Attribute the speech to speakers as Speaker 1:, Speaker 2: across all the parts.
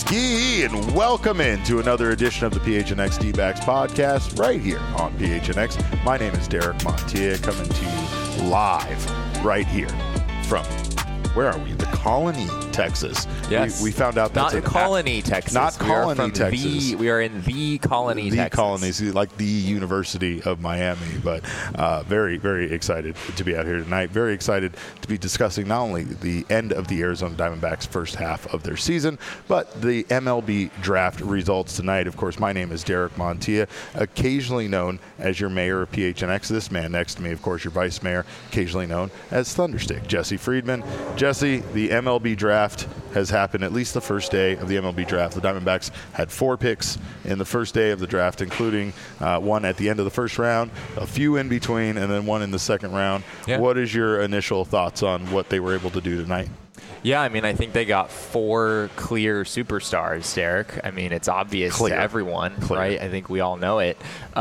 Speaker 1: Yee, and welcome into another edition of the PHNX D-Backs podcast right here on PHNX. My name is Derek Montilla, coming to you live right here from, where are we? The Colony, Texas.
Speaker 2: Yes.
Speaker 1: We found out that's
Speaker 2: not Colony, Texas.
Speaker 1: Not Colony, Texas.
Speaker 2: We are in the Colony, Texas.
Speaker 1: The Colony, like the University of Miami. But very, very excited to be out here tonight. Very excited to be discussing not only the end of the Arizona Diamondbacks' first half of their season, but the MLB draft results tonight. Of course, my name is Derek Montilla, occasionally known as your mayor of PHNX. This man next to me, of course, your vice mayor, occasionally known as Thunderstick, Jesse Friedman. Jesse, the MLB draft has happened, at least the first day of the MLB draft. The Diamondbacks had 4 picks in the first day of the draft, including one at the end of the first round, a few in between, and then one in the second round. Yeah. What is your initial thoughts on what they were able to do tonight?
Speaker 2: Yeah, I mean, I think they got 4 clear superstars, Derek. I mean, it's obvious to everyone, right? I think we all know it.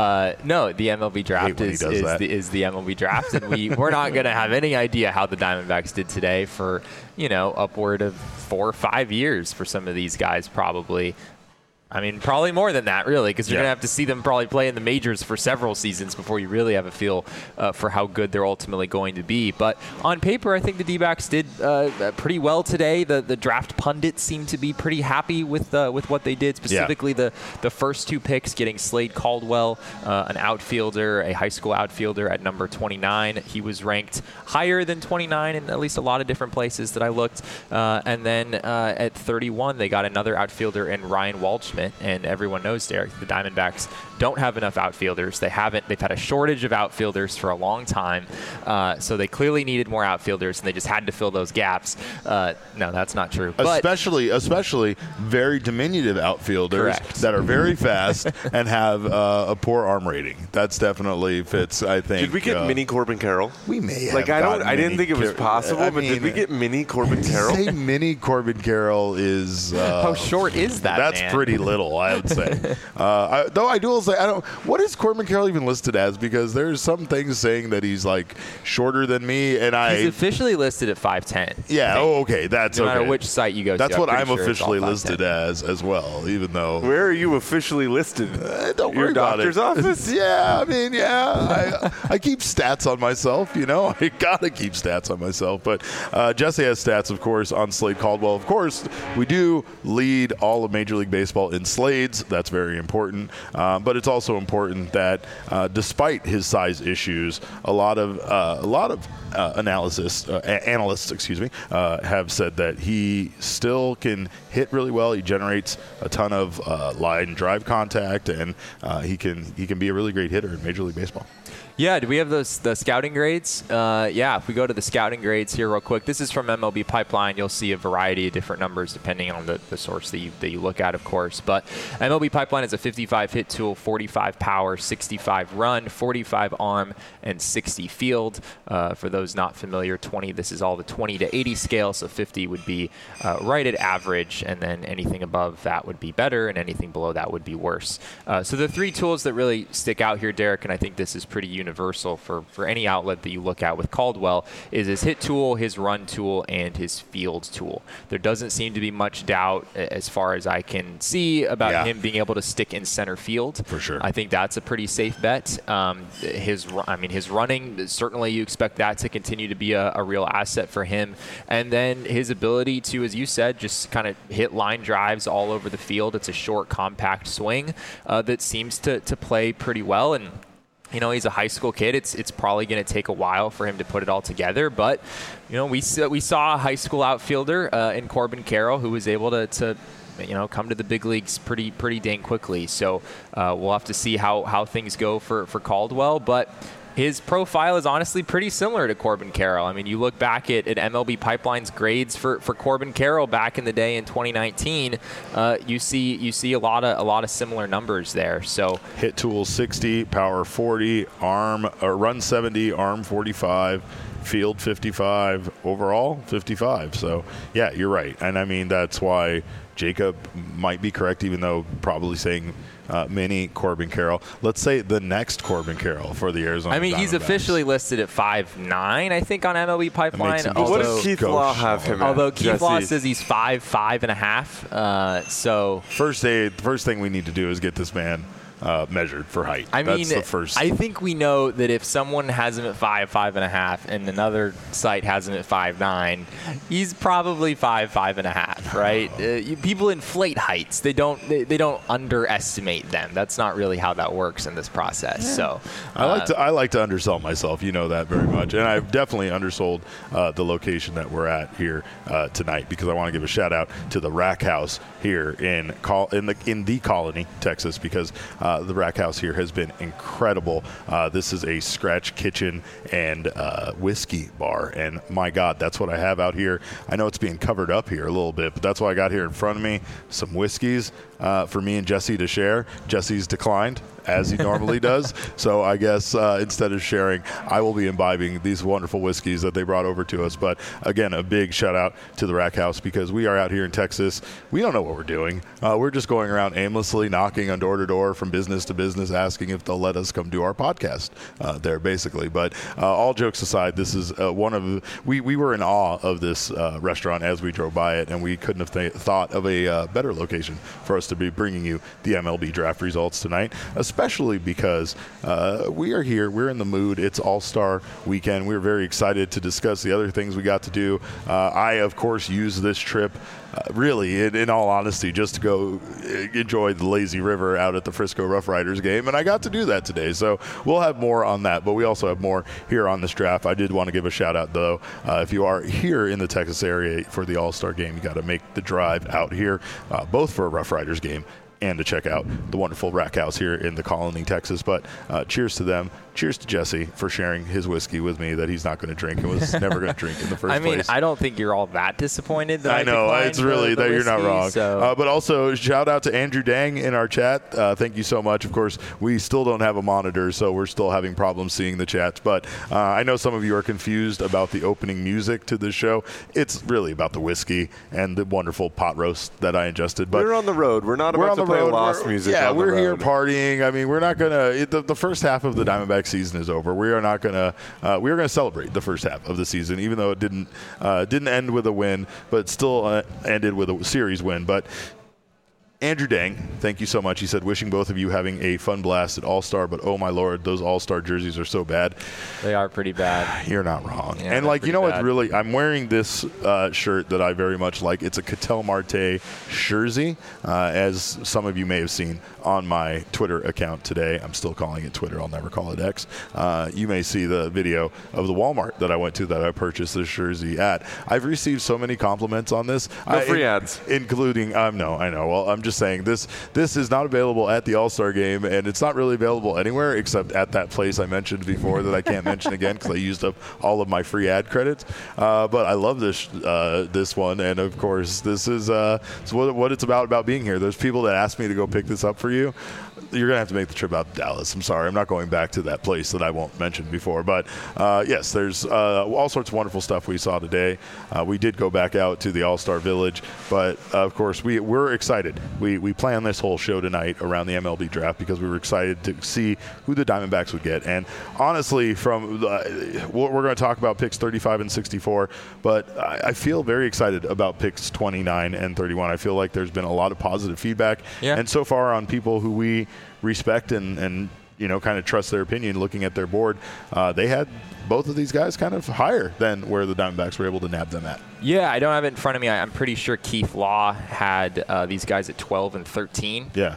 Speaker 2: No, the MLB draft is the MLB draft, and we're not going to have any idea how the Diamondbacks did today for, upward of 4 or 5 years for some of these guys probably. I mean, probably more than that, really, because you're going to have to see them probably play in the majors for several seasons before you really have a feel for how good they're ultimately going to be. But on paper, I think the D-backs did pretty well today. The draft pundits seem to be pretty happy with what they did, specifically the first 2 picks, getting Slade Caldwell, an outfielder, a high school outfielder at number 29. He was ranked higher than 29 in at least a lot of different places that I looked. And then at 31, they got another outfielder in Ryan Waldschmidt. And everyone knows, Derek, the Diamondbacks don't have enough outfielders. They've had a shortage of outfielders for a long time. So they clearly needed more outfielders, and they just had to fill those gaps. No, that's not true.
Speaker 1: Especially very diminutive outfielders that are very fast and have a poor arm rating. That's definitely fits, I think.
Speaker 3: Did we get mini Corbin Carroll?
Speaker 1: We may have.
Speaker 3: I didn't think it was possible, but did we get mini Corbin Carroll?
Speaker 1: Say mini Corbin Carroll is
Speaker 2: how short is that?
Speaker 1: That's
Speaker 2: man?
Speaker 1: Pretty little, I would say. Though I do say, what is Corbin Carroll even listed as? Because there's some things saying that he's like shorter than me, and
Speaker 2: he's officially listed at 5'10".
Speaker 1: Yeah. Oh, okay. That's
Speaker 2: no
Speaker 1: okay.
Speaker 2: matter which site you go.
Speaker 1: That's what I'm officially listed as well. Even though.
Speaker 3: Where are you officially listed?
Speaker 1: Don't worry about it.
Speaker 3: Your doctor's office?
Speaker 1: Yeah. I mean, yeah. I keep stats on myself. I gotta keep stats on myself. But Jesse has stats, of course, on Slade Caldwell. Of course, we do lead all of Major League Baseball in Slades. That's very important. But it's also important that despite his size issues, a lot of analysts have said that he still can hit really well. He generates a ton of line drive contact, and he can be a really great hitter in Major League Baseball.
Speaker 2: Yeah, do we have the scouting grades? If we go to the scouting grades here real quick. This is from MLB Pipeline. You'll see a variety of different numbers depending on the source that you look at, of course. But MLB Pipeline is a 55 hit tool, 45 power, 65 run, 45 arm, and 60 field. For those not familiar, 20. This is all the 20 to 80 scale, so 50 would be right at average, and then anything above that would be better, and anything below that would be worse. So the 3 tools that really stick out here, Derek, and I think this is pretty universal for any outlet that you look at with Caldwell, is his hit tool, his run tool, and his field tool. There doesn't seem to be much doubt, as far as I can see, about him being able to stick in center field.
Speaker 1: For sure.
Speaker 2: I think that's a pretty safe bet. His running, certainly you expect that to continue to be a real asset for him. And then his ability to, as you said, just kind of hit line drives all over the field. It's a short, compact swing that seems to play pretty well. And he's a high school kid. It's probably going to take a while for him to put it all together. But, we saw a high school outfielder in Corbin Carroll who was able to come to the big leagues pretty dang quickly. So we'll have to see how things go for Caldwell. But his profile is honestly pretty similar to Corbin Carroll. I mean, you look back at MLB Pipeline's grades for Corbin Carroll back in the day in 2019. You see a lot of similar numbers there. So
Speaker 1: hit tool 60, power 40, run 70, arm 45. field 55, overall 55. So, yeah, you're right. And, I mean, that's why Jacob might be correct, even though probably saying mini Corbin Carroll. Let's say the next Corbin Carroll for the Arizona Diamondbacks.
Speaker 2: He's officially listed at 5'9", I think, on MLB Pipeline.
Speaker 3: What does Keith Law have him at?
Speaker 2: Although Keith Law says he's 5'5.5". So
Speaker 1: first thing we need to do is get this man measured for height. That's the first.
Speaker 2: I think we know that if someone has him at 5'5.5", and another site has him at 5'9", he's probably 5'5.5", right? People inflate heights. They don't underestimate them. That's not really how that works in this process. Yeah. So
Speaker 1: I like to undersell myself. You know that very much, and I've definitely undersold the location that we're at here tonight, because I want to give a shout out to the Rack House here in the Colony, Texas, because the Rack House here has been incredible. This is a scratch kitchen and whiskey bar, and my God, that's what I have out here. I know it's being covered up here a little bit, but that's what I got here in front of me. Some whiskeys for me and Jesse to share. Jesse's declined, as he normally does. So I guess instead of sharing, I will be imbibing these wonderful whiskeys that they brought over to us. But again, a big shout out to the Rack House, because we are out here in Texas. We don't know what we're doing. We're just going around aimlessly, knocking on door to door from business to business, asking if they'll let us come do our podcast there, basically. But all jokes aside, this is we were in awe of this restaurant as we drove by it, and we couldn't have thought of a better location for us to be bringing you the MLB draft results tonight, especially because we are here. We're in the mood. It's All-Star Weekend. We're very excited to discuss the other things we got to do. I, of course, use this trip really, in all honesty, just to go enjoy the lazy river out at the Frisco Rough Riders game, and I got to do that today. So we'll have more on that, but we also have more here on this draft. I did want to give a shout out, though. If you are here in the Texas area for the All-Star game, you got to make the drive out here, both for a Rough Riders game and to check out the wonderful Rack House here in the Colony, Texas. But cheers to them. Cheers to Jesse for sharing his whiskey with me that he's not going to drink and was never going to drink in the first place.
Speaker 2: I don't think you're all that disappointed that I
Speaker 1: know. It's really that you're not wrong.
Speaker 2: So.
Speaker 1: But also, shout out to Andrew Dang in our chat. Thank you so much. Of course, we still don't have a monitor, so we're still having problems seeing the chats. But I know some of you are confused about the opening music to this show. It's really about the whiskey and the wonderful pot roast that I ingested. But
Speaker 3: we're on the road. We're not about to play Lost music.
Speaker 1: Yeah, we're here partying. I mean, we're not going to. The first half of the Diamondback season is over. We are not going to. We are going to celebrate the first half of the season, even though it didn't end with a win, but still ended with a series win. But Andrew Dang, thank you so much. He said, wishing both of you having a fun blast at All-Star, but oh my Lord, those All-Star jerseys are so bad.
Speaker 2: They are pretty bad.
Speaker 1: You're not wrong.
Speaker 2: Yeah,
Speaker 1: and like, you know what, really, I'm wearing this shirt that I very much like. It's a Ketel Marte jersey, as some of you may have seen on my Twitter account today. I'm still calling it Twitter. I'll never call it X. You may see the video of the Walmart that I went to that I purchased this jersey at. I've received so many compliments on this.
Speaker 3: No free ads.
Speaker 1: Including, no, I know. Well, I'm just saying this is not available at the All-Star game, and it's not really available anywhere except at that place I mentioned before that I can't mention again because I used up all of my free ad credits. But I love this one, and of course this is what it's about being here. There's people that ask me to go pick this up for you. You're going to have to make the trip out to Dallas. I'm sorry. I'm not going back to that place that I won't mention before. But, yes, there's all sorts of wonderful stuff we saw today. We did go back out to the All-Star Village. But, of course, we're excited. We planned this whole show tonight around the MLB draft because we were excited to see who the Diamondbacks would get. And, honestly, we're going to talk about picks 35 and 64. But I feel very excited about picks 29 and 31. I feel like there's been a lot of positive feedback.
Speaker 2: Yeah.
Speaker 1: And so far on people who we respect and kind of trust their opinion looking at their board, they had both of these guys kind of higher than where the Diamondbacks were able to nab them at.
Speaker 2: Yeah, I don't have it in front of me. I'm pretty sure Keith Law had these guys at 12 and 13.
Speaker 1: Yeah.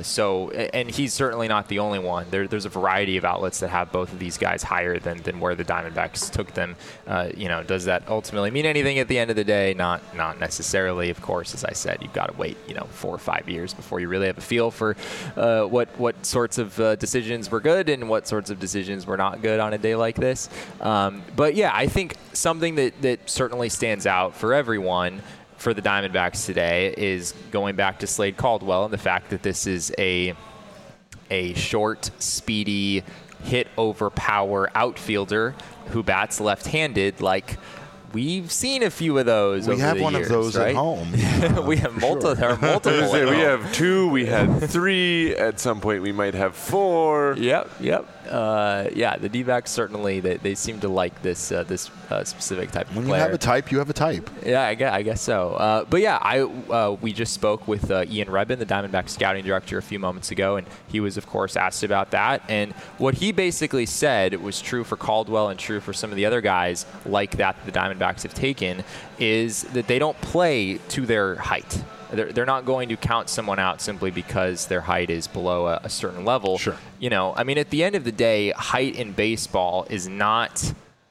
Speaker 2: And he's certainly not the only one. There's a variety of outlets that have both of these guys higher than where the Diamondbacks took them. Does that ultimately mean anything at the end of the day? Not necessarily. Of course, as I said, you've got to wait 4 or 5 years before you really have a feel for what sorts of decisions were good and what sorts of decisions were not good on a day like this. But yeah, I think something that certainly stands out for everyone for the Diamondbacks today is going back to Slade Caldwell and the fact that this is a short, speedy hit over power outfielder who bats left-handed. Like, we've seen a few of those.
Speaker 1: We have one
Speaker 2: years,
Speaker 1: of those
Speaker 2: right?
Speaker 1: at home.
Speaker 2: We have multiple. There are multiple.
Speaker 3: We have 2. We had 3. At some point, we might have 4.
Speaker 2: Yep. Yeah, the D-backs certainly they seem to like this specific type of player.
Speaker 1: When you have a type, you have a type.
Speaker 2: Yeah, I guess so. But yeah, we just spoke with Ian Rebin, the Diamondbacks scouting director, a few moments ago, and he was, of course, asked about that. And what he basically said was true for Caldwell and true for some of the other guys like that the Diamondbacks have taken, is that they don't play to their height. They're not going to count someone out simply because their height is below a certain level.
Speaker 1: Sure.
Speaker 2: I mean, at the end of the day, height in baseball is not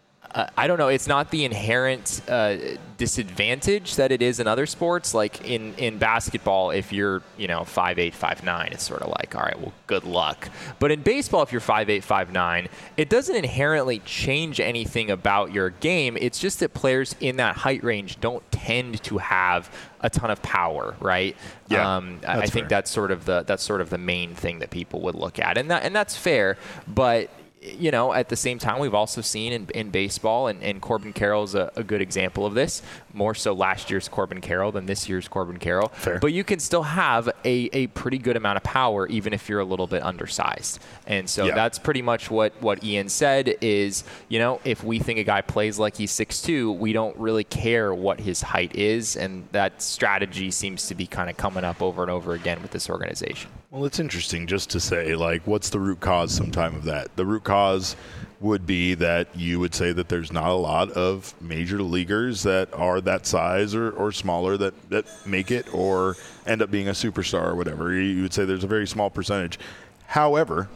Speaker 2: I don't know. It's not the inherent disadvantage that it is in other sports. Like in basketball, if you're 5'8", 5'9", it's sort of like, all right, well, good luck. But in baseball, if you're 5'8", 5'9", it doesn't inherently change anything about your game. It's just that players in that height range don't tend to have a ton of power, right?
Speaker 1: Yeah,
Speaker 2: I think that's sort of the main thing that people would look at, and that's fair, but. At the same time, we've also seen in baseball, and Corbin Carroll's a good example of this, more so last year's Corbin Carroll than this year's Corbin Carroll.
Speaker 1: Fair.
Speaker 2: But you can still have a pretty good amount of power, even if you're a little bit undersized. And so that's pretty much what Ian said is, if we think a guy plays like he's 6'2", we don't really care what his height is. And that strategy seems to be kind of coming up over and over again with this organization.
Speaker 1: Well, it's interesting just to say, what's the root cause sometime of that? The root cause would be that you would say that there's not a lot of major leaguers that are that size or smaller that make it or end up being a superstar or whatever. You would say there's a very small percentage. However,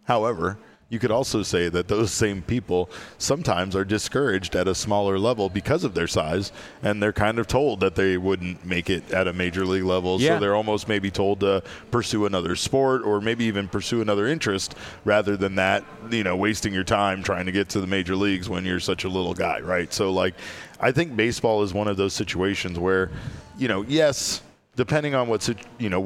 Speaker 1: you could also say that those same people sometimes are discouraged at a smaller level because of their size, and they're kind of told that they wouldn't make it at a major league level.
Speaker 2: Yeah.
Speaker 1: So they're almost maybe told to pursue another sport or maybe even pursue another interest rather than that, wasting your time trying to get to the major leagues when you're such a little guy, right? So, I think baseball is one of those situations where, yes, depending on what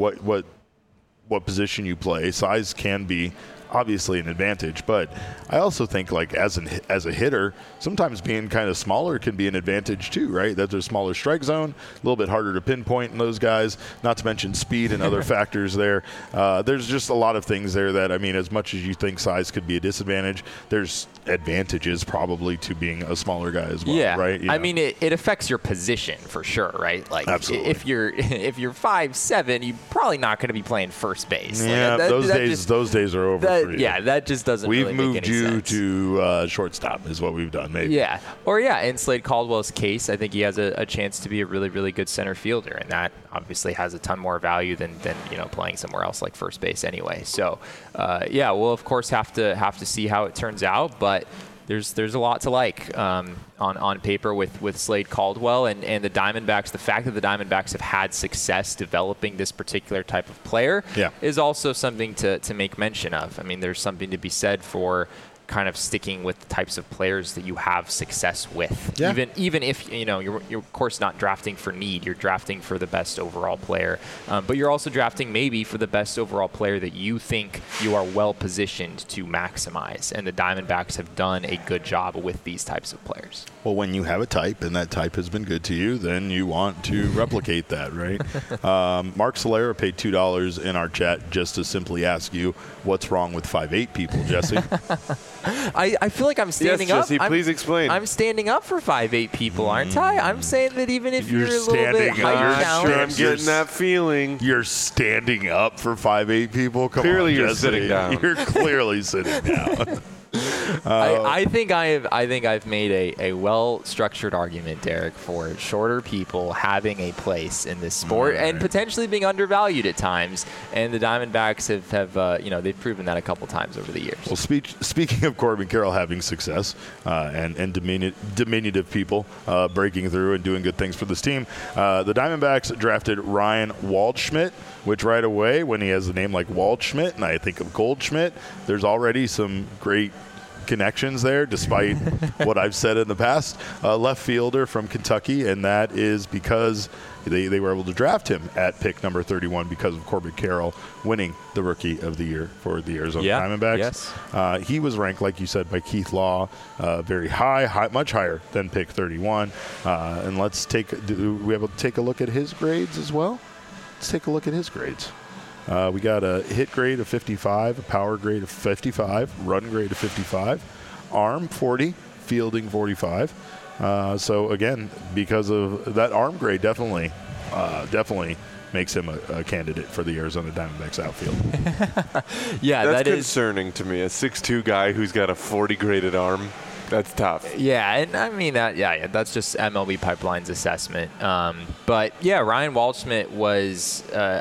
Speaker 1: position you play, size can be obviously an advantage, but I also think as a hitter, sometimes being kind of smaller can be an advantage too, right? That there's a smaller strike zone, a little bit harder to pinpoint in those guys, not to mention speed and other factors there. There's just a lot of things there that, as much as you think size could be a disadvantage, there's advantages probably to being a smaller guy as well, right?
Speaker 2: It affects your position for sure, right?
Speaker 1: Absolutely.
Speaker 2: If you're 5'7", you're probably not going to be playing first base.
Speaker 1: Yeah, those days are over.
Speaker 2: Yeah, that just doesn't
Speaker 1: really
Speaker 2: make any sense.
Speaker 1: We've moved you to shortstop is what we've done, maybe.
Speaker 2: Yeah. Or, in Slade Caldwell's case, I think he has a chance to be a really, really good center fielder, and that obviously has a ton more value than playing somewhere else like first base anyway. So, we'll, of course, have to see how it turns out, but there's a lot to like on paper with Slade Caldwell and the Diamondbacks. The fact that the Diamondbacks have had success developing this particular type of player is also something to make mention of. There's something to be said for kind of sticking with the types of players that you have success with. Yeah. Even if you're of course not drafting for need, you're drafting for the best overall player, but you're also drafting maybe for the best overall player that you think you are well positioned to maximize. And the Diamondbacks have done a good job with these types of players.
Speaker 1: Well, when you have a type and that type has been good to you, then you want to replicate that, right? Mark Solera paid $2 in our chat just to simply ask you what's wrong with 5'8" people, Jesse.
Speaker 2: I feel like I'm standing up.
Speaker 3: Jesse, please explain.
Speaker 2: I'm standing up for 5'8" people, aren't I? I'm saying that even if you're a little bit
Speaker 3: height challenged, I'm getting that feeling.
Speaker 1: You're standing up for 5'8" people.
Speaker 3: Clearly,
Speaker 1: on,
Speaker 3: you're
Speaker 1: Jesse.
Speaker 3: sitting down.
Speaker 1: You're clearly sitting down.
Speaker 2: I think I've made a well-structured argument, Derek, for shorter people having a place in this sport and potentially being undervalued at times. And the Diamondbacks have they've proven that a couple times over the years.
Speaker 1: Well, speaking of Corbin Carroll having success and diminutive people breaking through and doing good things for this team, the Diamondbacks drafted Ryan Waldschmidt, which right away, when he has a name like Waldschmidt and I think of Goldschmidt, there's already some great connections there, despite what I've said in the past. Left fielder from Kentucky, and that is because they were able to draft him at pick number 31 because of Corbin Carroll winning the Rookie of the Year for the Arizona Diamondbacks.
Speaker 2: Yes.
Speaker 1: He was ranked, like you said, by Keith Law, very high, much higher than pick 31. And do we able to take a look at his grades as well? Let's take a look at his grades. We got a hit grade of 55, a power grade of 55, run grade of 55, arm 40, fielding 45. So again, because of that arm grade, definitely makes him a candidate for the Arizona Diamondbacks outfield.
Speaker 3: Yeah, that's concerning to me. A 6'2" guy who's got a 40 graded arm. That's tough.
Speaker 2: Yeah, and I mean that's just MLB Pipeline's assessment. But yeah, Ryan Waldschmidt was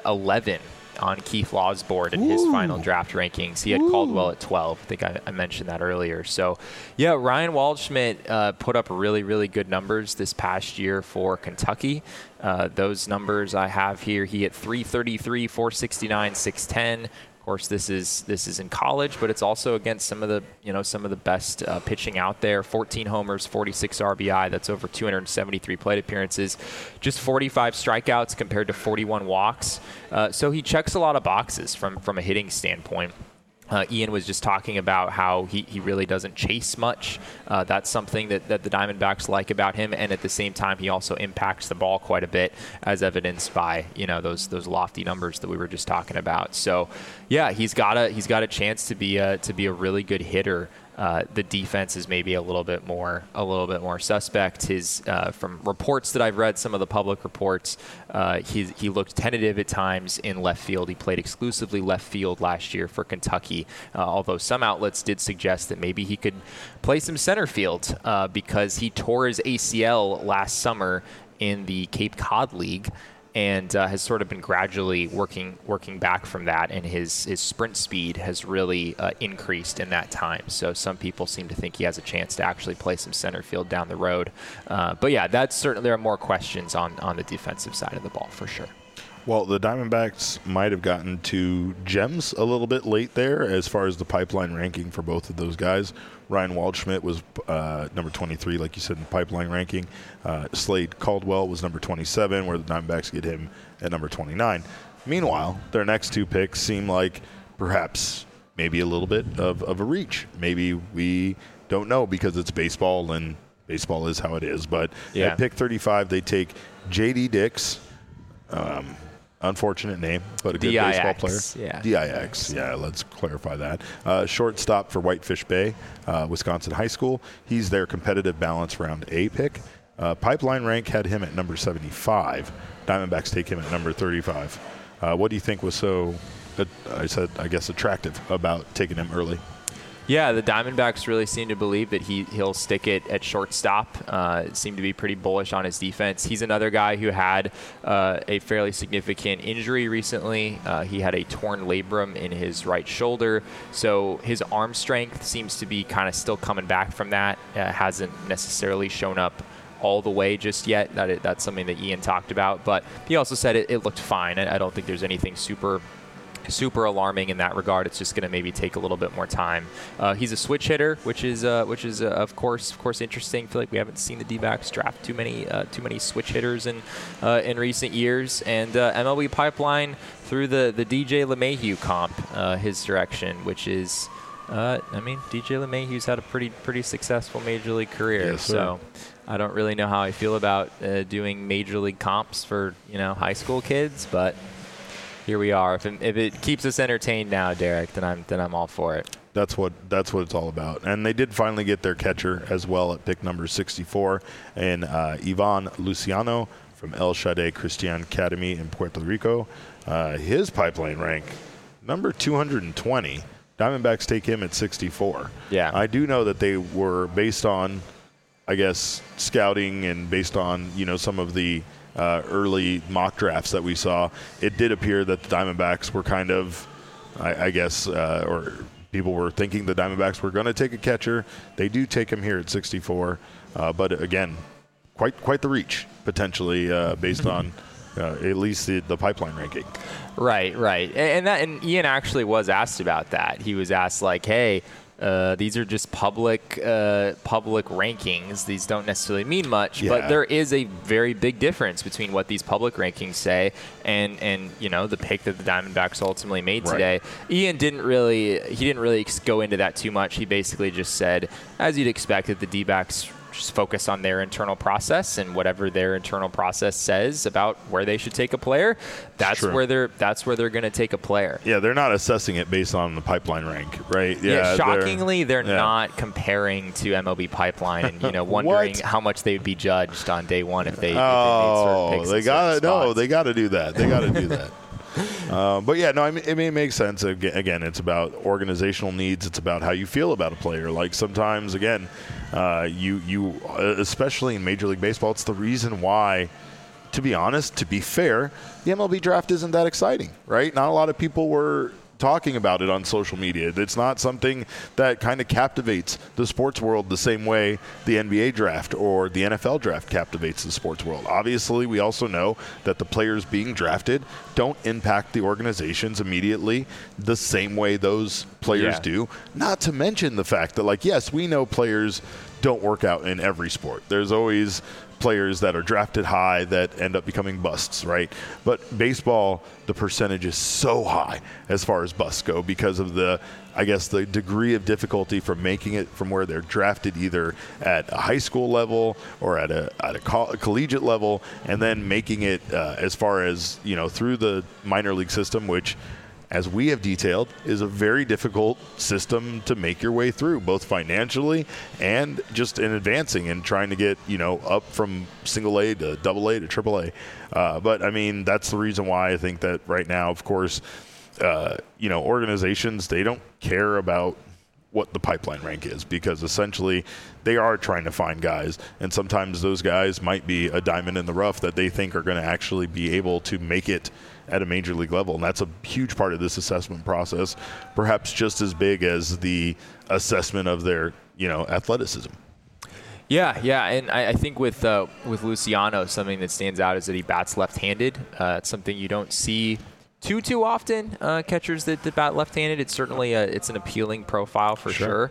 Speaker 2: 11 on Keith Law's board in his final draft rankings. He had Caldwell at 12. I think I mentioned that earlier. So, yeah, Ryan Waldschmidt put up really, really good numbers this past year for Kentucky. Those numbers I have here. He hit 333, 469, 610. Of course, this is in college, but it's also against some of the best pitching out there. 14 homers, 46 RBI. That's over 273 plate appearances. Just 45 strikeouts compared to 41 walks. So he checks a lot of boxes from a hitting standpoint. Ian was just talking about how he really doesn't chase much. That's something that the Diamondbacks like about him, and at the same time, he also impacts the ball quite a bit, as evidenced by those lofty numbers that we were just talking about. So, yeah, he's got a chance to be a really good hitter. The defense is maybe a little bit more suspect. His from reports that I've read, some of the public reports, he looked tentative at times in left field. He played exclusively left field last year for Kentucky, although some outlets did suggest that maybe he could play some center field because he tore his ACL last summer in the Cape Cod League. And has sort of been gradually working back from that, and his sprint speed has really increased in that time. So some people seem to think he has a chance to actually play some center field down the road. But yeah, there are more questions on the defensive side of the ball for sure.
Speaker 1: Well, the Diamondbacks might have gotten to gems a little bit late there as far as the pipeline ranking for both of those guys. Ryan Waldschmidt was number 23, like you said, in the pipeline ranking. Slade Caldwell was number 27, where the Diamondbacks get him at number 29. Meanwhile, their next two picks seem like perhaps maybe a little bit of a reach. Maybe we don't know because it's baseball, and baseball is how it is. But at pick 35, they take J.D. Dix. Unfortunate name, but a good baseball player.
Speaker 2: Yeah.
Speaker 1: DIX. Yeah, let's clarify that. Shortstop for Whitefish Bay, Wisconsin High School. He's their competitive balance round A pick. Pipeline rank had him at number 75. Diamondbacks take him at number 35. What do you think was so, attractive about taking him early?
Speaker 2: Yeah, the Diamondbacks really seem to believe that he'll stick it at shortstop. Seem to be pretty bullish on his defense. He's another guy who had a fairly significant injury recently. He had a torn labrum in his right shoulder, so his arm strength seems to be kind of still coming back from that. Hasn't necessarily shown up all the way just yet. That's something that Ian talked about, but he also said it looked fine. I don't think there's anything super alarming in that regard. It's just going to maybe take a little bit more time. He's a switch hitter, which is of course interesting. I feel like we haven't seen the D-backs draft too many switch hitters in recent years. And MLB Pipeline threw the DJ LeMahieu comp his direction, which is DJ LeMahieu's had a pretty successful major league career.
Speaker 1: Yes,
Speaker 2: so I don't really know how I feel about doing major league comps for high school kids, but here we are. If it keeps us entertained now, Derek, then I'm all for it.
Speaker 1: That's what it's all about. And they did finally get their catcher as well at pick number 64, and Ivan Luciano from El Shade Christian Academy in Puerto Rico. His pipeline rank, number 220. Diamondbacks take him at 64.
Speaker 2: Yeah.
Speaker 1: I do know that they were based on, I guess, scouting and based on some of the early mock drafts that we saw. It did appear that the Diamondbacks were kind of, or people were thinking the Diamondbacks were going to take a catcher. They do take him here at 64, but again, quite the reach potentially based on at least the pipeline ranking.
Speaker 2: Right, and Ian actually was asked about that. He was asked hey, These are just public rankings. These don't necessarily mean much, but there is a very big difference between what these public rankings say and the pick that the Diamondbacks ultimately made today. Ian didn't really go into that too much. He basically just said, as you'd expect, that the D-backs just focus on their internal process, and whatever their internal process says about where they should take a player, that's where they're going to take a player.
Speaker 1: Yeah, they're not assessing it based on the pipeline rank, right?
Speaker 2: Yeah, shockingly, they're not comparing to MLB Pipeline and wondering how much they would be judged on day one if they made certain picks.
Speaker 1: They got to do that. They got to do that. It makes sense. Again, it's about organizational needs. It's about how you feel about a player. Like sometimes, again, you especially in Major League Baseball, it's the reason why, to be honest, to be fair, the MLB draft isn't that exciting, right? Not a lot of people were talking about it on social media. It's not something that kind of captivates the sports world the same way the NBA draft or the NFL draft captivates the sports world. Obviously, we also know that the players being drafted don't impact the organizations immediately the same way those players do. Not to mention the fact that, yes, we know players don't work out in every sport. There's always players that are drafted high that end up becoming busts, right? But baseball, the percentage is so high as far as busts go because of the degree of difficulty from making it from where they're drafted either at a high school level or at a collegiate level, and then making it as far as, through the minor league system, which, as we have detailed, is a very difficult system to make your way through, both financially and just in advancing and trying to get, up from single A to double A to triple A. But that's the reason why I think that right now, of course, organizations, they don't care about what the pipeline rank is, because essentially they are trying to find guys, and sometimes those guys might be a diamond in the rough that they think are going to actually be able to make it at a major league level. And that's a huge part of this assessment process, perhaps just as big as the assessment of their, athleticism.
Speaker 2: Yeah, and I think with Luciano, something that stands out is that he bats left-handed. It's something you don't see too often, catchers that bat left-handed. It's certainly it's an appealing profile for sure.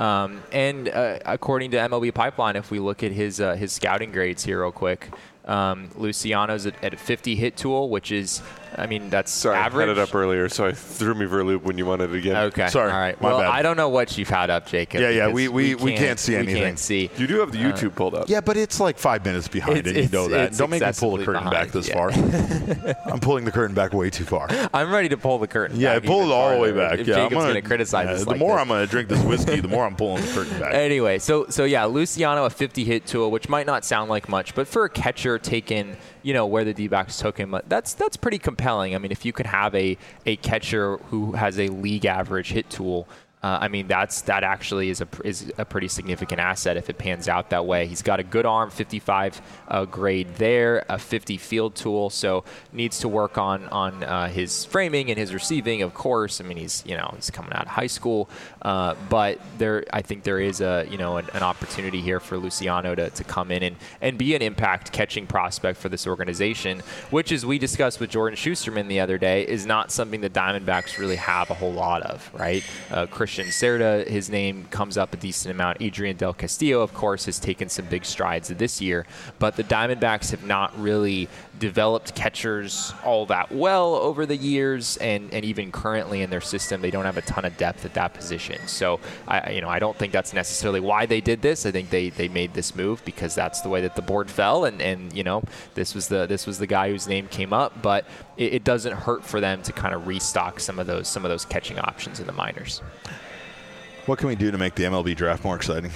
Speaker 2: And according to MLB Pipeline, if we look at his scouting grades here real quick, Luciano's at a 50 hit tool, which is, that's average.
Speaker 3: I had it up earlier, so I threw me for a loop when you wanted it again.
Speaker 2: Okay.
Speaker 1: Sorry.
Speaker 2: All right.
Speaker 1: My bad.
Speaker 2: I don't know what you've had up, Jacob.
Speaker 1: Yeah. We can't see anything.
Speaker 2: We can't see.
Speaker 3: You do have the YouTube pulled up.
Speaker 1: Yeah, but it's like 5 minutes behind, and you know that. Don't make me pull the curtain back this far. I'm pulling the curtain back way too far.
Speaker 2: I'm ready to pull the curtain back.
Speaker 1: Yeah, pull it all the way back.
Speaker 2: If Jacob's going to criticize us
Speaker 1: the more I'm going to drink this whiskey, the more I'm pulling the curtain back.
Speaker 2: Anyway, so Luciano, a 50 hit tool, which might not sound like much, but for a catcher taken, where the D-backs took him, that's pretty compelling. If you could have a catcher who has a league average hit tool, that actually is a pretty significant asset if it pans out that way. He's got a good arm, 55 grade there, a 50 field tool, so needs to work on his framing and his receiving, of course. He's coming out of high school, but I think there is an opportunity here for Luciano to come in and be an impact catching prospect for this organization, which, as we discussed with Jordan Schusterman the other day, is not something the Diamondbacks really have a whole lot of, right? Christian Cerda, his name comes up a decent amount. Adrian Del Castillo, of course, has taken some big strides this year, but the Diamondbacks have not really developed catchers all that well over the years, and even currently in their system, they don't have a ton of depth at that position. So I don't think that's necessarily why they did this. I think they made this move because that's the way that the board fell, and this was the guy whose name came up, but it doesn't hurt for them to kind of restock some of those catching options in the minors.
Speaker 1: What can we do to make the MLB draft more exciting?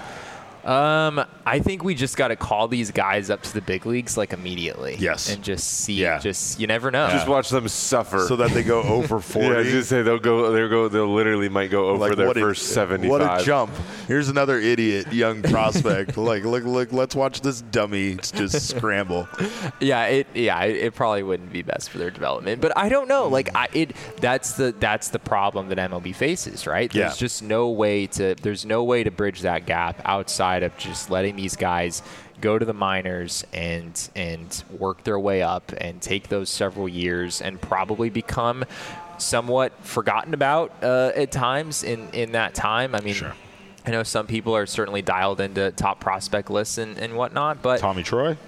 Speaker 2: I think we just got to call these guys up to the big leagues immediately.
Speaker 1: Yes.
Speaker 2: And just see. Yeah. You never know.
Speaker 3: Just watch them suffer.
Speaker 1: So that they go over 40.
Speaker 3: Yeah, just say they'll literally might go over their first 75.
Speaker 1: What a jump. Here's another idiot young prospect. Look, let's watch this dummy just scramble.
Speaker 2: It probably wouldn't be best for their development. But I don't know. That's the problem that MLB faces, right? There's just no way to bridge that gap outside of just letting these guys go to the minors and work their way up and take those several years and probably become somewhat forgotten about at times in that time. I mean,
Speaker 1: sure.
Speaker 2: I know some people are certainly dialed into top prospect lists and whatnot, but
Speaker 1: Tommy Troy?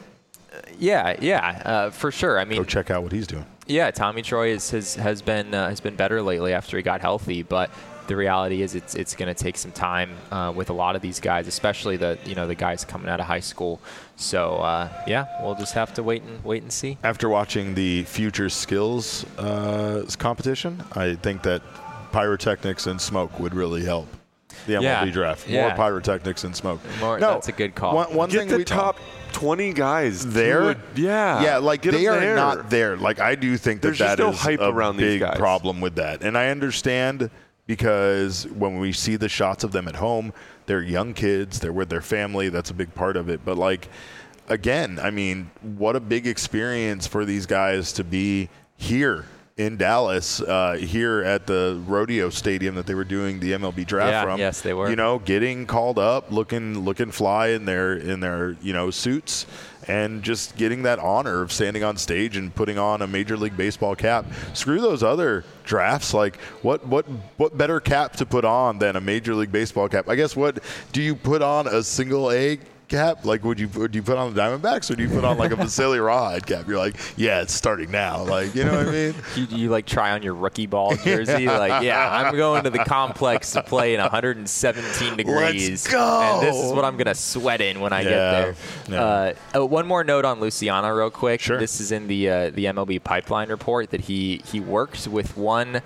Speaker 2: For sure. I mean,
Speaker 1: go check out what he's doing.
Speaker 2: Yeah, Tommy Troy has been better lately after he got healthy, but the reality is it's going to take some time with a lot of these guys, especially the guys coming out of high school. So we'll just have to wait and see.
Speaker 1: After watching the Future Skills competition, I think that pyrotechnics and smoke would really help the MLB draft. More pyrotechnics and smoke.
Speaker 2: That's a good call.
Speaker 3: One thing the top 20 guys
Speaker 1: there.
Speaker 3: Like
Speaker 1: they are not there. Like I do think that that
Speaker 3: no
Speaker 1: is
Speaker 3: hype
Speaker 1: a
Speaker 3: around
Speaker 1: big
Speaker 3: these guys.
Speaker 1: problem with that, and I understand. Because when we see the shots of them at home, they're young kids, they're with their family, that's a big part of it. But, like, again, I mean, what a big experience for these guys to be here in Dallas, here at the rodeo stadium that they were doing the MLB draft from.
Speaker 2: Yes, they were.
Speaker 1: You know, getting called up, looking fly in their suits, and just getting that honor of standing on stage and putting on a Major League Baseball cap. Screw those other drafts. Like, what better cap to put on than a Major League Baseball cap? I guess what do you put on a single A cap? Like, would you put on the Diamondbacks, or do you put on like a Vasily Rawhide cap? You're like, yeah, it's starting now. Like, you know what I mean?
Speaker 2: you like try on your rookie ball jersey. Like, I'm going to the complex to play in 117 degrees.
Speaker 1: Let's go.
Speaker 2: And this is what I'm gonna sweat in when I get there.
Speaker 1: Yeah.
Speaker 2: One more note on Luciano, real quick.
Speaker 1: Sure.
Speaker 2: This is in the MLB Pipeline report that he worked with one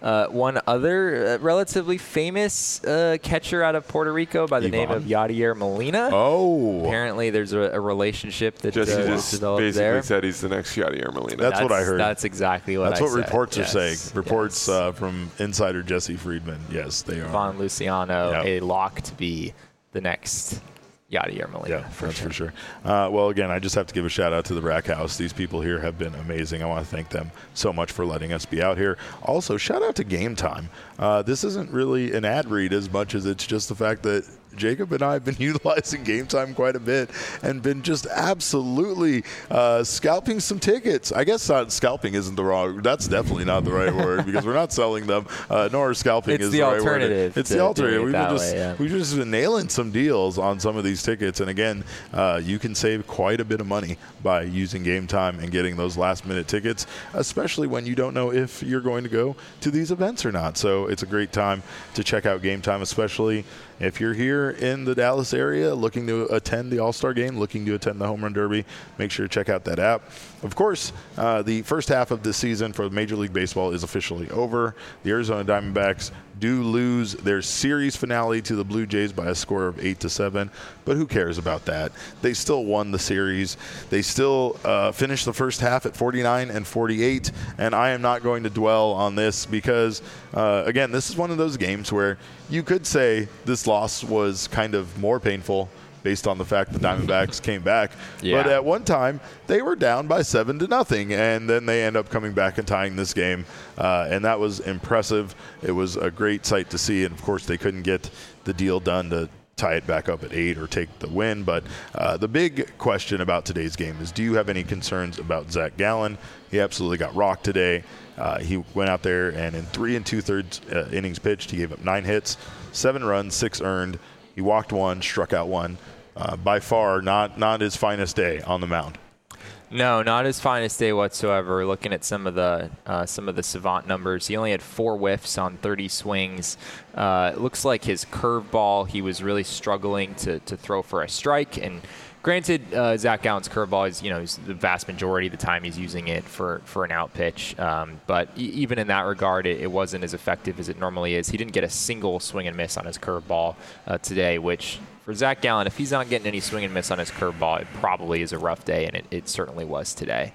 Speaker 2: other relatively famous catcher out of Puerto Rico by the name of Yadier Molina.
Speaker 1: Oh.
Speaker 2: Apparently there's a relationship that
Speaker 3: Jesse just
Speaker 2: developed
Speaker 3: basically
Speaker 2: there.
Speaker 3: said he's the next Yadier Molina.
Speaker 1: That's what I heard.
Speaker 2: That's exactly what I said.
Speaker 1: That's what reports are saying. Reports
Speaker 2: Yes.
Speaker 1: from insider Jesse Friedman. Yes, they are.
Speaker 2: Von Luciano, a lock to be the next Yadier Molina.
Speaker 1: Yeah, for sure. Well, again, I just have to give a shout out to the Rack House. These people here have been amazing. I want to thank them so much for letting us be out here. Also, shout out to Game Time. This isn't really an ad read as much as it's just the fact that Jacob and I have been utilizing Game Time quite a bit and been just absolutely scalping some tickets. I guess scalping isn't the wrong. That's definitely not the right word because we're not selling them. Nor scalping is the right word. It's the alternative. We've just been nailing some deals on some of these tickets, and again, you can save quite a bit of money by using Game Time and getting those last-minute tickets, especially when you don't know if you're going to go to these events or not. So it's a great time to check out Game Time, especially if you're here in the Dallas area looking to attend the All-Star Game, looking to attend the Home Run Derby. Make sure to check out that app. Of course, the first half of this season for Major League Baseball is officially over. The Arizona Diamondbacks do lose their series finale to the Blue Jays by a score of 8-7, but who cares about that? They still won the series. They still finished the first half at 49-48, and I am not going to dwell on this because, again, this is one of those games where you could say this loss was kind of more painful based on the fact the Diamondbacks came back. Yeah. But at one time, they were down by 7-0, and then they end up coming back and tying this game. And that was impressive. It was a great sight to see. And, of course, they couldn't get the deal done to tie it back up at 8 or take the win. But the big question about today's game is, do you have any concerns about Zach Gallen? He absolutely got rocked today. He went out there, and in 3 2/3 innings pitched, he gave up 9 hits, 7 runs, 6 earned. He walked 1, struck out 1. By far, not his finest day on the mound.
Speaker 2: No, not his finest day whatsoever. Looking at some of the Savant numbers, he only had 4 whiffs on 30 swings. It looks like his curveball, he was really struggling to throw for a strike. And granted, Zach Gallen's curveball is the vast majority of the time he's using it for an out pitch. But even in that regard, it wasn't as effective as it normally is. He didn't get a single swing and miss on his curveball today, which for Zach Gallen, if he's not getting any swing and miss on his curveball, it probably is a rough day, and it certainly was today.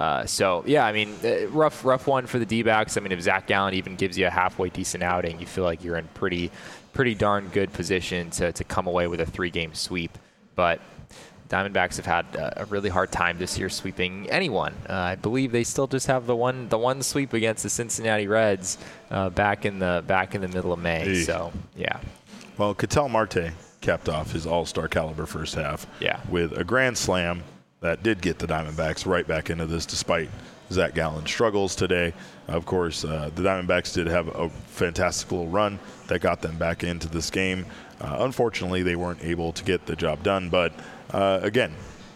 Speaker 2: Rough one for the D-backs. I mean, if Zach Gallen even gives you a halfway decent outing, you feel like you're in pretty darn good position to come away with a 3-game sweep. But Diamondbacks have had a really hard time this year sweeping anyone. I believe they still just have the one sweep against the Cincinnati Reds back in the middle of May. Eesh. So yeah.
Speaker 1: Well, Ketel Marte capped off his all-star caliber first half with a grand slam that did get the Diamondbacks right back into this, despite Zach Gallen struggles today. Of course, the Diamondbacks did have a fantastical run that got them back into this game. Unfortunately, they weren't able to get the job done. But, again,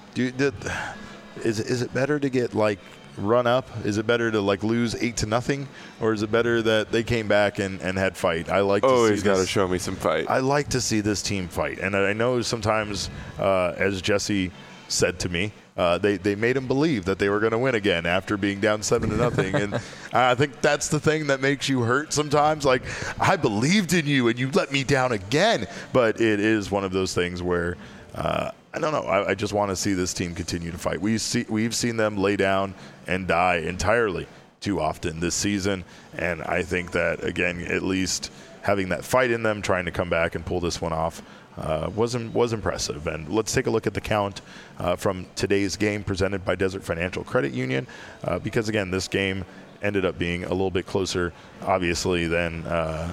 Speaker 1: is it better to get, run up? Is it better to lose 8-0, or is it better that they came back and had fight? I like.
Speaker 3: He's got to show me some fight.
Speaker 1: I like to see this team fight, and I know sometimes, as Jesse said to me, they made him believe that they were going to win again after being down 7-0, and I think that's the thing that makes you hurt sometimes. I believed in you, and you let me down again. But it is one of those things where. I don't know. I just want to see this team continue to fight. We've seen them lay down and die entirely too often this season, and I think that, again, at least having that fight in them, trying to come back and pull this one off, was impressive. And let's take a look at the count from today's game presented by Desert Financial Credit Union, because, again, this game ended up being a little bit closer, obviously, than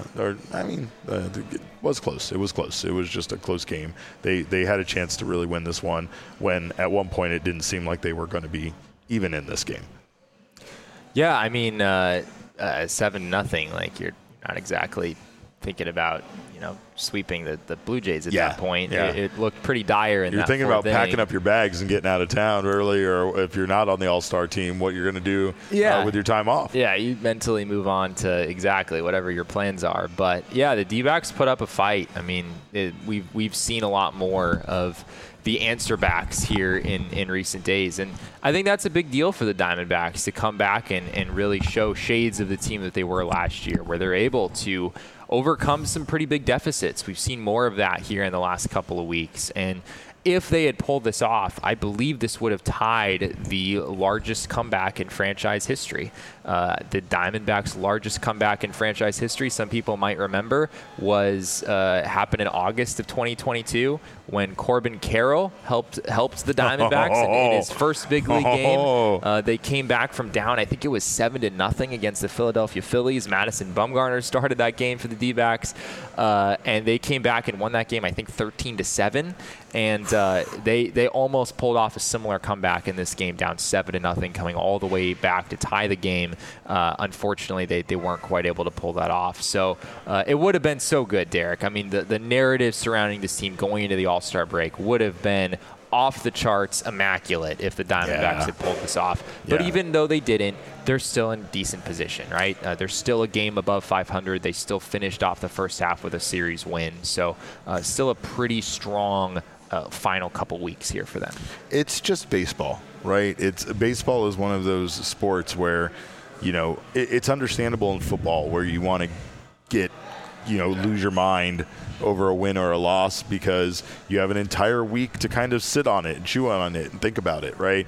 Speaker 1: it was close. It was close. It was just a close game. They had a chance to really win this one when at one point it didn't seem like they were going to be even in this game.
Speaker 2: Yeah, 7-0. You're not exactly thinking about sweeping the Blue Jays at that point.
Speaker 1: Yeah.
Speaker 2: It looked pretty dire in that
Speaker 1: You're thinking about packing up your bags and getting out of town early, or if you're not on the All-Star team, what you're going to do with your time off.
Speaker 2: Yeah, you mentally move on to exactly whatever your plans are. But, yeah, the D-backs put up a fight. We've seen a lot more of the answer backs here in recent days. And I think that's a big deal for the Diamondbacks to come back and really show shades of the team that they were last year, where they're able to overcome some pretty big deficits. We've seen more of that here in the last couple of weeks. And if they had pulled this off, I believe this would have tied the largest comeback in franchise history. The Diamondbacks' largest comeback in franchise history, some people might remember, was happened in August of 2022 when Corbin Carroll helped the Diamondbacks in his first big league game. They came back from down, I think it was 7-0 against the Philadelphia Phillies. Madison Bumgarner started that game for the D-backs, and they came back and won that game, I think 13-7. And they almost pulled off a similar comeback in this game, down 7-0, coming all the way back to tie the game. Unfortunately, they weren't quite able to pull that off. So it would have been so good, Derek. The narrative surrounding this team going into the All-Star break would have been off the charts immaculate if the Diamondbacks had pulled this off. But even though they didn't, they're still in decent position, right? They're still a game above 500. They still finished off the first half with a series win. So still a pretty strong final couple weeks here for them.
Speaker 1: It's just baseball, right? Baseball is one of those sports where, it's understandable in football where you want to lose your mind over a win or a loss because you have an entire week to kind of sit on it and chew on it and think about it, right?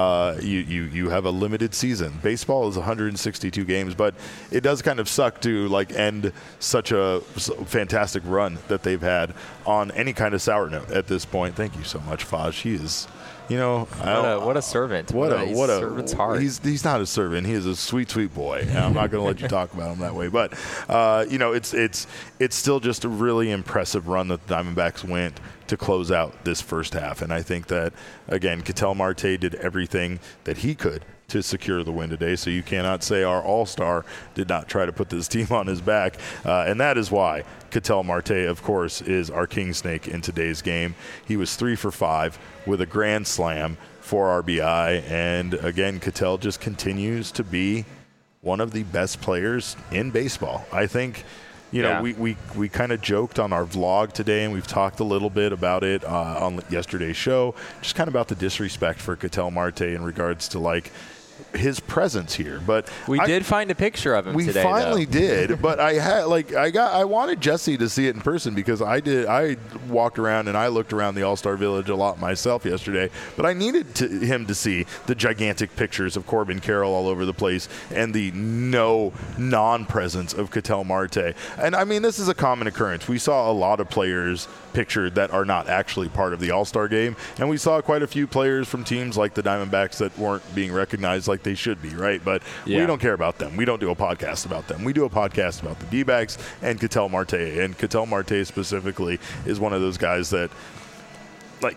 Speaker 1: You have a limited season. Baseball is 162 games, but it does kind of suck to end such a fantastic run that they've had on any kind of sour note at this point. Thank you so much, Faj. He is...
Speaker 2: what a servant. What a servant's heart.
Speaker 1: He's not a servant. He is a sweet, sweet boy. And I'm not going to let you talk about him that way. But, it's still just a really impressive run that the Diamondbacks went to close out this first half. And I think that, again, Ketel Marte did everything that he could to secure the win today. So you cannot say our all-star did not try to put this team on his back. And that is why Ketel Marte, of course, is our king snake in today's game. He was 3 for 5 with a grand slam, 4 RBI. And again, Ketel just continues to be one of the best players in baseball. I think, we kind of joked on our vlog today, and we've talked a little bit about it on yesterday's show, just kind of about the disrespect for Ketel Marte in regards to his presence here. But
Speaker 2: we did find a picture of him today.
Speaker 1: We finally did, but I wanted Jesse to see it in person because I walked around and I looked around the All-Star Village a lot myself yesterday, but I needed him to see the gigantic pictures of Corbin Carroll all over the place and the non-presence of Ketel Marte. And this is a common occurrence. We saw a lot of players pictured that are not actually part of the All-Star game, and we saw quite a few players from teams like the Diamondbacks that weren't being recognized like they should be, right? But we don't care about them. We don't do a podcast about them. We do a podcast about the D-backs and Ketel Marte. And Ketel Marte specifically is one of those guys that,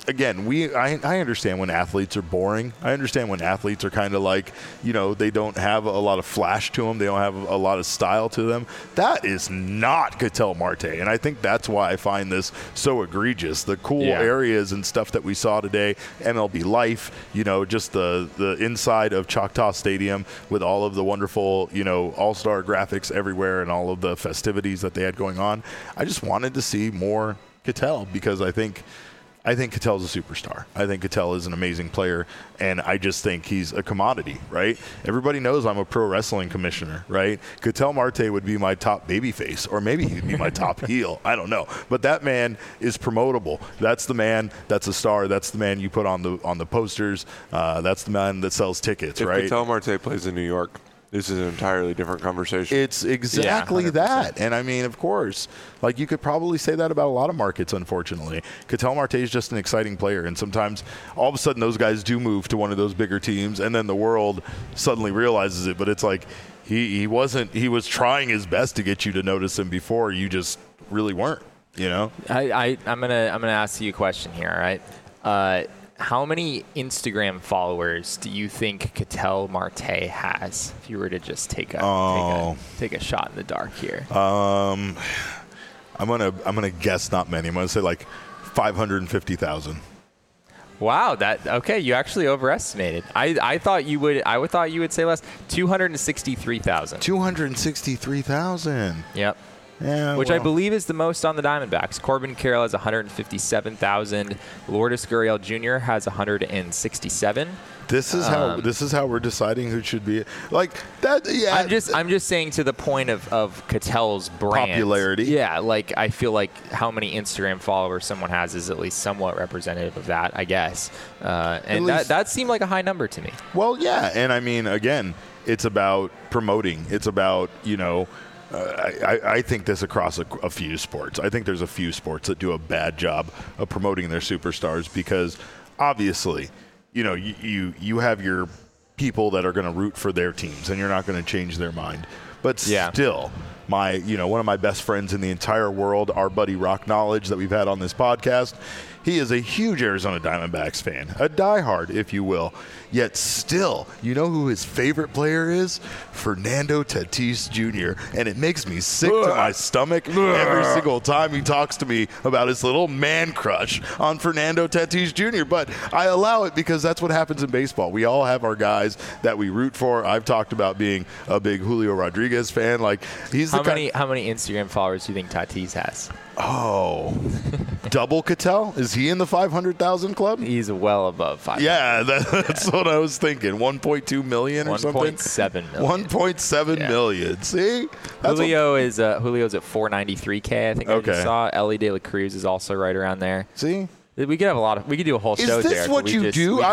Speaker 1: again, I understand when athletes are boring. I understand when athletes are kind of like, they don't have a lot of flash to them. They don't have a lot of style to them. That is not Ketel Marte. And I think that's why I find this so egregious. The cool areas and stuff that we saw today, MLB Life, just the inside of Choctaw Stadium with all of the wonderful, all-star graphics everywhere and all of the festivities that they had going on. I just wanted to see more Ketel because I think Ketel's a superstar. I think Ketel is an amazing player, and I just think he's a commodity, right? Everybody knows I'm a pro wrestling commissioner, right? Ketel Marte would be my top babyface, or maybe he'd be my top heel. I don't know. But that man is promotable. That's the man that's a star. That's the man you put on the posters. That's the man that sells tickets, right?
Speaker 3: If Ketel Marte plays in New York, this is an entirely different conversation.
Speaker 1: It's exactly that. And, I mean, of course, like you could probably say that about a lot of markets, unfortunately. Ketel Marte is just an exciting player. And sometimes all of a sudden those guys do move to one of those bigger teams, and then the world suddenly realizes it. But it's like he was trying his best to get you to notice him before. You just really weren't,
Speaker 2: I'm gonna ask you a question here, all right? How many Instagram followers do you think Ketel Marte has? If you were to just take a shot in the dark here.
Speaker 1: I'm gonna guess not many. I'm gonna say like 550,000.
Speaker 2: Wow, okay. You actually overestimated. I thought you would say less. 263,000.
Speaker 1: 263,000.
Speaker 2: Yep.
Speaker 1: Yeah,
Speaker 2: which I believe is the most on the Diamondbacks. Corbin Carroll has 157,000. Lourdes Gurriel Jr. has 167.
Speaker 1: This is how we're deciding who should be like that. Yeah,
Speaker 2: I'm just saying to the point of Ketel's brand
Speaker 1: popularity.
Speaker 2: Yeah, like I feel like how many Instagram followers someone has is at least somewhat representative of that, I guess. And that seemed like a high number to me.
Speaker 1: Well, yeah, and I mean, again, it's about promoting. It's about I think this across a few sports. I think there's a few sports that do a bad job of promoting their superstars because obviously, you have your people that are going to root for their teams and you're not going to change their mind. But still, one of my best friends in the entire world, our buddy Rock Knowledge that we've had on this podcast, he is a huge Arizona Diamondbacks fan, a diehard, if you will. Yet still, you know who his favorite player is? Fernando Tatis Jr. And it makes me sick to my stomach every single time he talks to me about his little man crush on Fernando Tatis Jr. But I allow it because that's what happens in baseball. We all have our guys that we root for. I've talked about being a big Julio Rodriguez fan. Like
Speaker 2: how many Instagram followers do you think Tatis has?
Speaker 1: Oh, double Ketel? Is he in the 500,000 club?
Speaker 2: He's well above 500.
Speaker 1: Yeah, that's what I was thinking. 1.2 million or something?
Speaker 2: 1.7 million.
Speaker 1: 1.7 million. See?
Speaker 2: Julio's at 493K, I think I just saw. Ellie De La Cruz is also right around there.
Speaker 1: See?
Speaker 2: We could have we could do a whole show there.
Speaker 1: Is this what you do?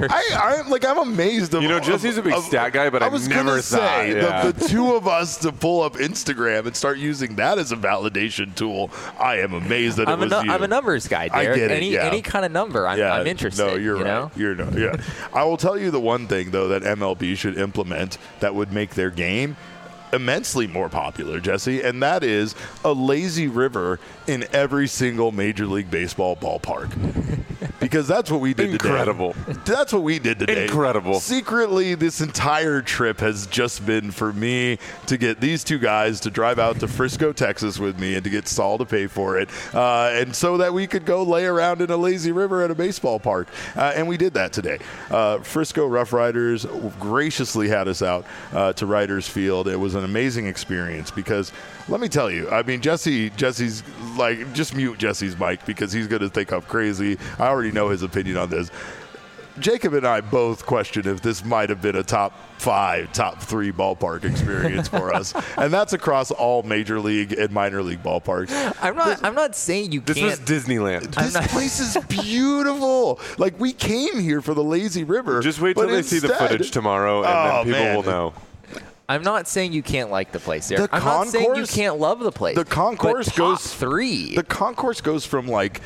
Speaker 1: I'm amazed.
Speaker 3: Jesse's a big stat guy, but I was never thought.
Speaker 1: The two of us to pull up Instagram and start using that as a validation tool. I am amazed that it was you.
Speaker 2: I'm a numbers guy, Derek.
Speaker 1: I get it,
Speaker 2: any kind of number, I'm interested.
Speaker 1: No, you're right. Yeah. I will tell you the one thing though that MLB should implement that would make their game immensely more popular, Jesse, and that is a lazy river in every single Major League Baseball ballpark. Because that's what we did
Speaker 3: Incredible.
Speaker 1: today. That's what we did today.
Speaker 3: Incredible.
Speaker 1: Secretly, this entire trip has just been for me to get these two guys to drive out to Frisco, Texas with me and to get Saul to pay for it. And so that we could go lay around in a lazy river at a baseball park. And we did that today. Frisco Rough Riders graciously had us out to Riders Field. It was an amazing experience because let me tell you, I mean, Jesse's like, just mute Jesse's mic because he's going to think I'm crazy. I already know his opinion on this. Jacob and I both question if this might have been a top 5, top 3 ballpark experience for us, and that's across all major league and minor league ballparks.
Speaker 2: I'm not saying you can't.
Speaker 3: This was Disneyland.
Speaker 1: This place is beautiful. Like, we came here for the lazy river.
Speaker 3: Just wait till they see the footage tomorrow, and then people will know.
Speaker 2: I'm not saying you can't like the place there. I'm not saying you can't love the place.
Speaker 1: The concourse
Speaker 2: goes 3.
Speaker 1: The concourse goes from like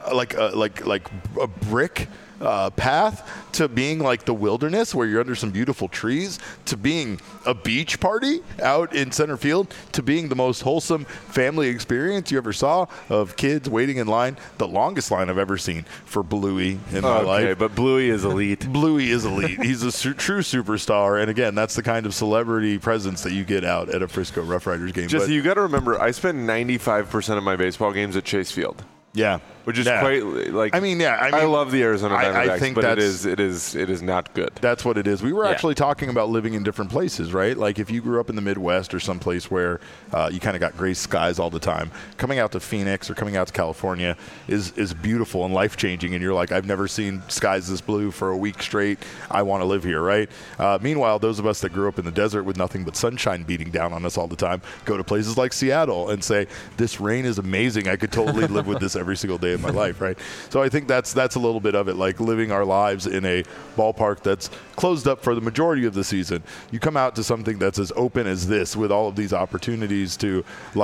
Speaker 1: like a brick path to being like the wilderness where you're under some beautiful trees, to being a beach party out in center field, to being the most wholesome family experience you ever saw of kids waiting in line. The longest line I've ever seen for Bluey in my life. Okay,
Speaker 3: but Bluey is elite.
Speaker 1: Bluey is elite. He's a true superstar, and again, that's the kind of celebrity presence that you get out at a Frisco Rough Riders game.
Speaker 3: Jesse, you got to remember, I spend 95% of my baseball games at Chase Field.
Speaker 1: Yeah.
Speaker 3: Which is quite like. I love the Arizona Diamondbacks, I think but it is not good.
Speaker 1: That's what it is. We were actually talking about living in different places, right? Like if you grew up in the Midwest or someplace where you kind of got gray skies all the time, coming out to Phoenix or coming out to California is beautiful and life changing. And you're like, I've never seen skies this blue for a week straight. I want to live here, right? Meanwhile, those of us that grew up in the desert with nothing but sunshine beating down on us all the time go to places like Seattle and say, this rain is amazing. I could totally live with this every single day of my life, right? So I think that's a little bit of it, like living our lives in a ballpark that's closed up for the majority of the season. You come out to something that's as open as this with all of these opportunities to,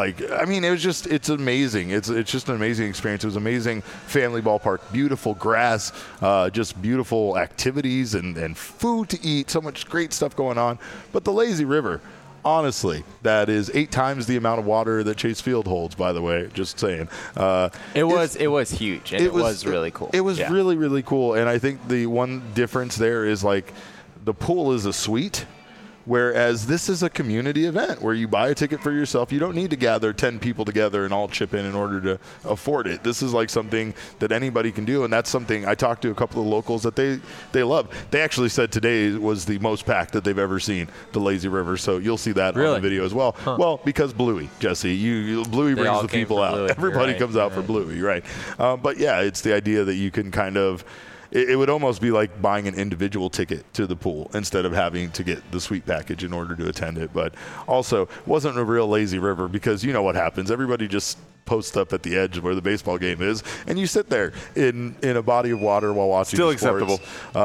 Speaker 1: it's amazing. It's just an amazing experience. It was amazing family ballpark, beautiful grass, just beautiful activities and food to eat, so much great stuff going on. But the lazy river, honestly, that is 8 times the amount of water that Chase Field holds, by the way, just saying.
Speaker 2: It was huge, and it was really cool.
Speaker 1: It was really, really cool, and I think the one difference there is, like, the pool is a suite, whereas this is a community event where you buy a ticket for yourself. You don't need to gather 10 people together and all chip in order to afford it. This is like something that anybody can do, and that's something I talked to a couple of locals that they love. They actually said today was the most packed that they've ever seen, the Lazy River, so you'll see that on the video as well. Huh. Well, because Bluey, Jesse. Bluey brings the people out. Bluey. Everybody comes out for Bluey, right? But yeah, it's the idea that you can kind of – it would almost be like buying an individual ticket to the pool instead of having to get the suite package in order to attend it. But also, wasn't a real lazy river because you know what happens. Everybody just post up at the edge where the baseball game is, and you sit there in a body of water while watching
Speaker 3: Still
Speaker 1: the sports.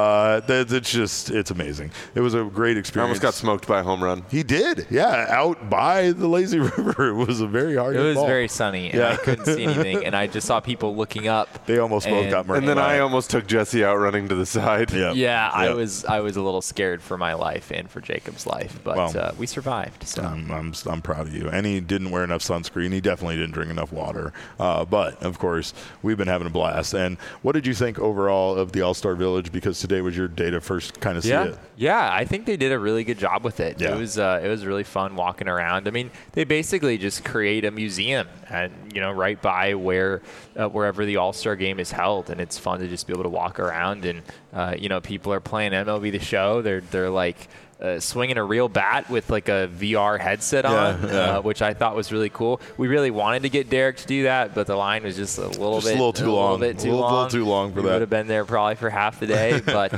Speaker 3: Acceptable.
Speaker 1: It's amazing. It was a great experience.
Speaker 3: I almost got smoked by a home run.
Speaker 1: He did, yeah, out by the lazy river. It was a very hard ball.
Speaker 2: It was very sunny, and I couldn't see anything, and I just saw people looking up.
Speaker 1: They almost both got murdered.
Speaker 3: And then I almost took Jesse out running to the side.
Speaker 2: Yeah, I was a little scared for my life and for Jacob's life, but we survived. So.
Speaker 1: I'm proud of you. And he didn't wear enough sunscreen. He definitely didn't drink enough water. But, of course, we've been having a blast. And what did you think overall of the All-Star Village? Because today was your day to first kind of see it.
Speaker 2: Yeah, I think they did a really good job with it. Yeah. It was really fun walking around. I mean, they basically just create a museum, and right by wherever the All-Star game is held, and it's fun to just be able to walk around. And people are playing MLB The Show. They're like swinging a real bat with like a VR headset on, which I thought was really cool. We really wanted to get Derek to do that, but the line was just a little too long for that. We would have been there probably for half the day, but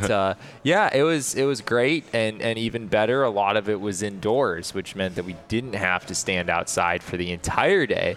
Speaker 2: it was great, and even better, a lot of it was indoors, which meant that we didn't have to stand outside for the entire day.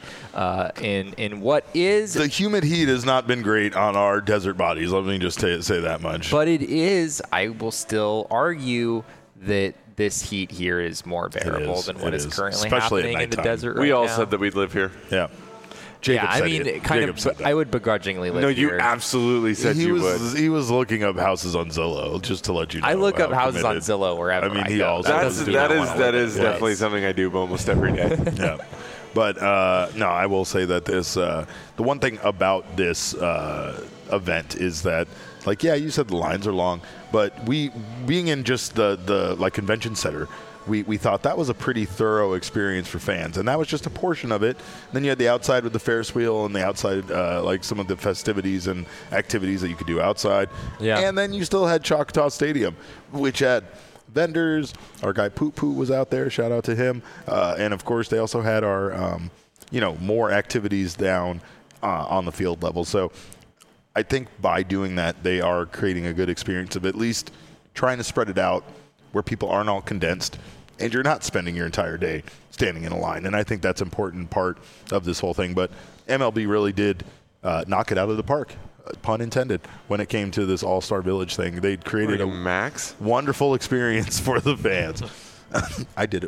Speaker 2: In what is
Speaker 1: the humid heat has not been great on our desert bodies. Let me just say that much.
Speaker 2: But it is. I will still argue that this heat here is more bearable than what is currently happening in the desert right now.
Speaker 3: We all said that we'd live here.
Speaker 1: Yeah. Jacob said
Speaker 2: I would begrudgingly live here.
Speaker 3: No, you absolutely said you would.
Speaker 1: He was looking up houses on Zillow, just to let you know.
Speaker 2: I look up houses on Zillow wherever I
Speaker 1: he
Speaker 2: go.
Speaker 1: Also
Speaker 3: that is definitely something I do almost every day.
Speaker 1: Yeah. But, no, I will say that this the one thing about this event is that, you said the lines are long, but being in just the convention center, we thought that was a pretty thorough experience for fans, and that was just a portion of it. Then you had the outside with the Ferris wheel and the outside, some of the festivities and activities that you could do outside. Yeah. And then you still had Choctaw Stadium, which had vendors. Our guy Poop Poo was out there. Shout out to him. And, of course, they also had our, more activities down on the field level. So I think by doing that, they are creating a good experience of at least trying to spread it out where people aren't all condensed and you're not spending your entire day standing in a line. And I think that's an important part of this whole thing. But MLB really did knock it out of the park, pun intended, when it came to this All-Star Village thing. They created a
Speaker 3: Max
Speaker 1: wonderful experience for the fans. I did it.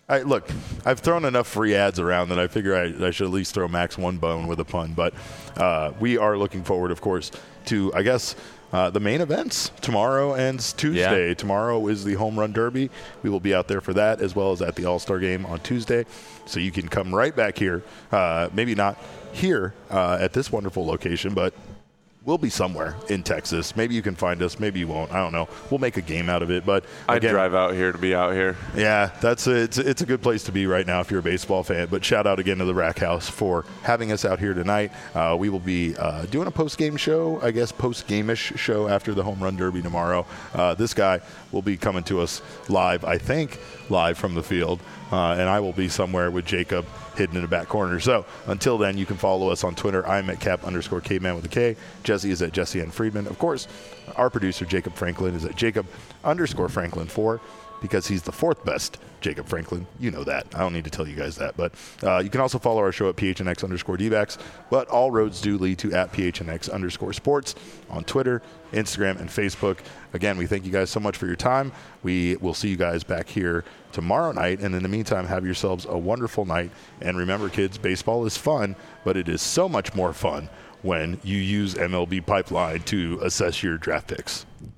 Speaker 1: Look, I've thrown enough free ads around that I figure I should at least throw Max one bone with a pun. But we are looking forward, of course, to, I guess, the main events tomorrow and Tuesday. Yeah. Tomorrow is the Home Run Derby. We will be out there for that, as well as at the All-Star Game on Tuesday. So you can come right back here, maybe not here at this wonderful location, but we'll be somewhere in Texas. Maybe you can find us. Maybe you won't. I don't know. We'll make a game out of it. But
Speaker 3: I'd drive out here to be out here.
Speaker 1: Yeah, it's a good place to be right now if you're a baseball fan. But shout out again to the Rack House for having us out here tonight. We will be doing a post-game show, I guess, post-game-ish show after the Home Run Derby tomorrow. This guy will be coming to us live, I think, live from the field. And I will be somewhere with Jacob hidden in the back corner. So until then, you can follow us on Twitter. I'm at Cap_Caveman with a K. Jesse is at Jesse N. Friedman. Of course, our producer, Jacob Franklin, is at Jacob_Franklin4 because he's the fourth best Jacob Franklin. You know that. I don't need to tell you guys that. But you can also follow our show at PHNX_DBacks. But all roads do lead to at PHNX_sports on Twitter, Instagram, and Facebook. Again, we thank you guys so much for your time. We will see you guys back here tomorrow night. And in the meantime, have yourselves a wonderful night. And remember, kids, baseball is fun, but it is so much more fun when you use MLB Pipeline to assess your draft picks.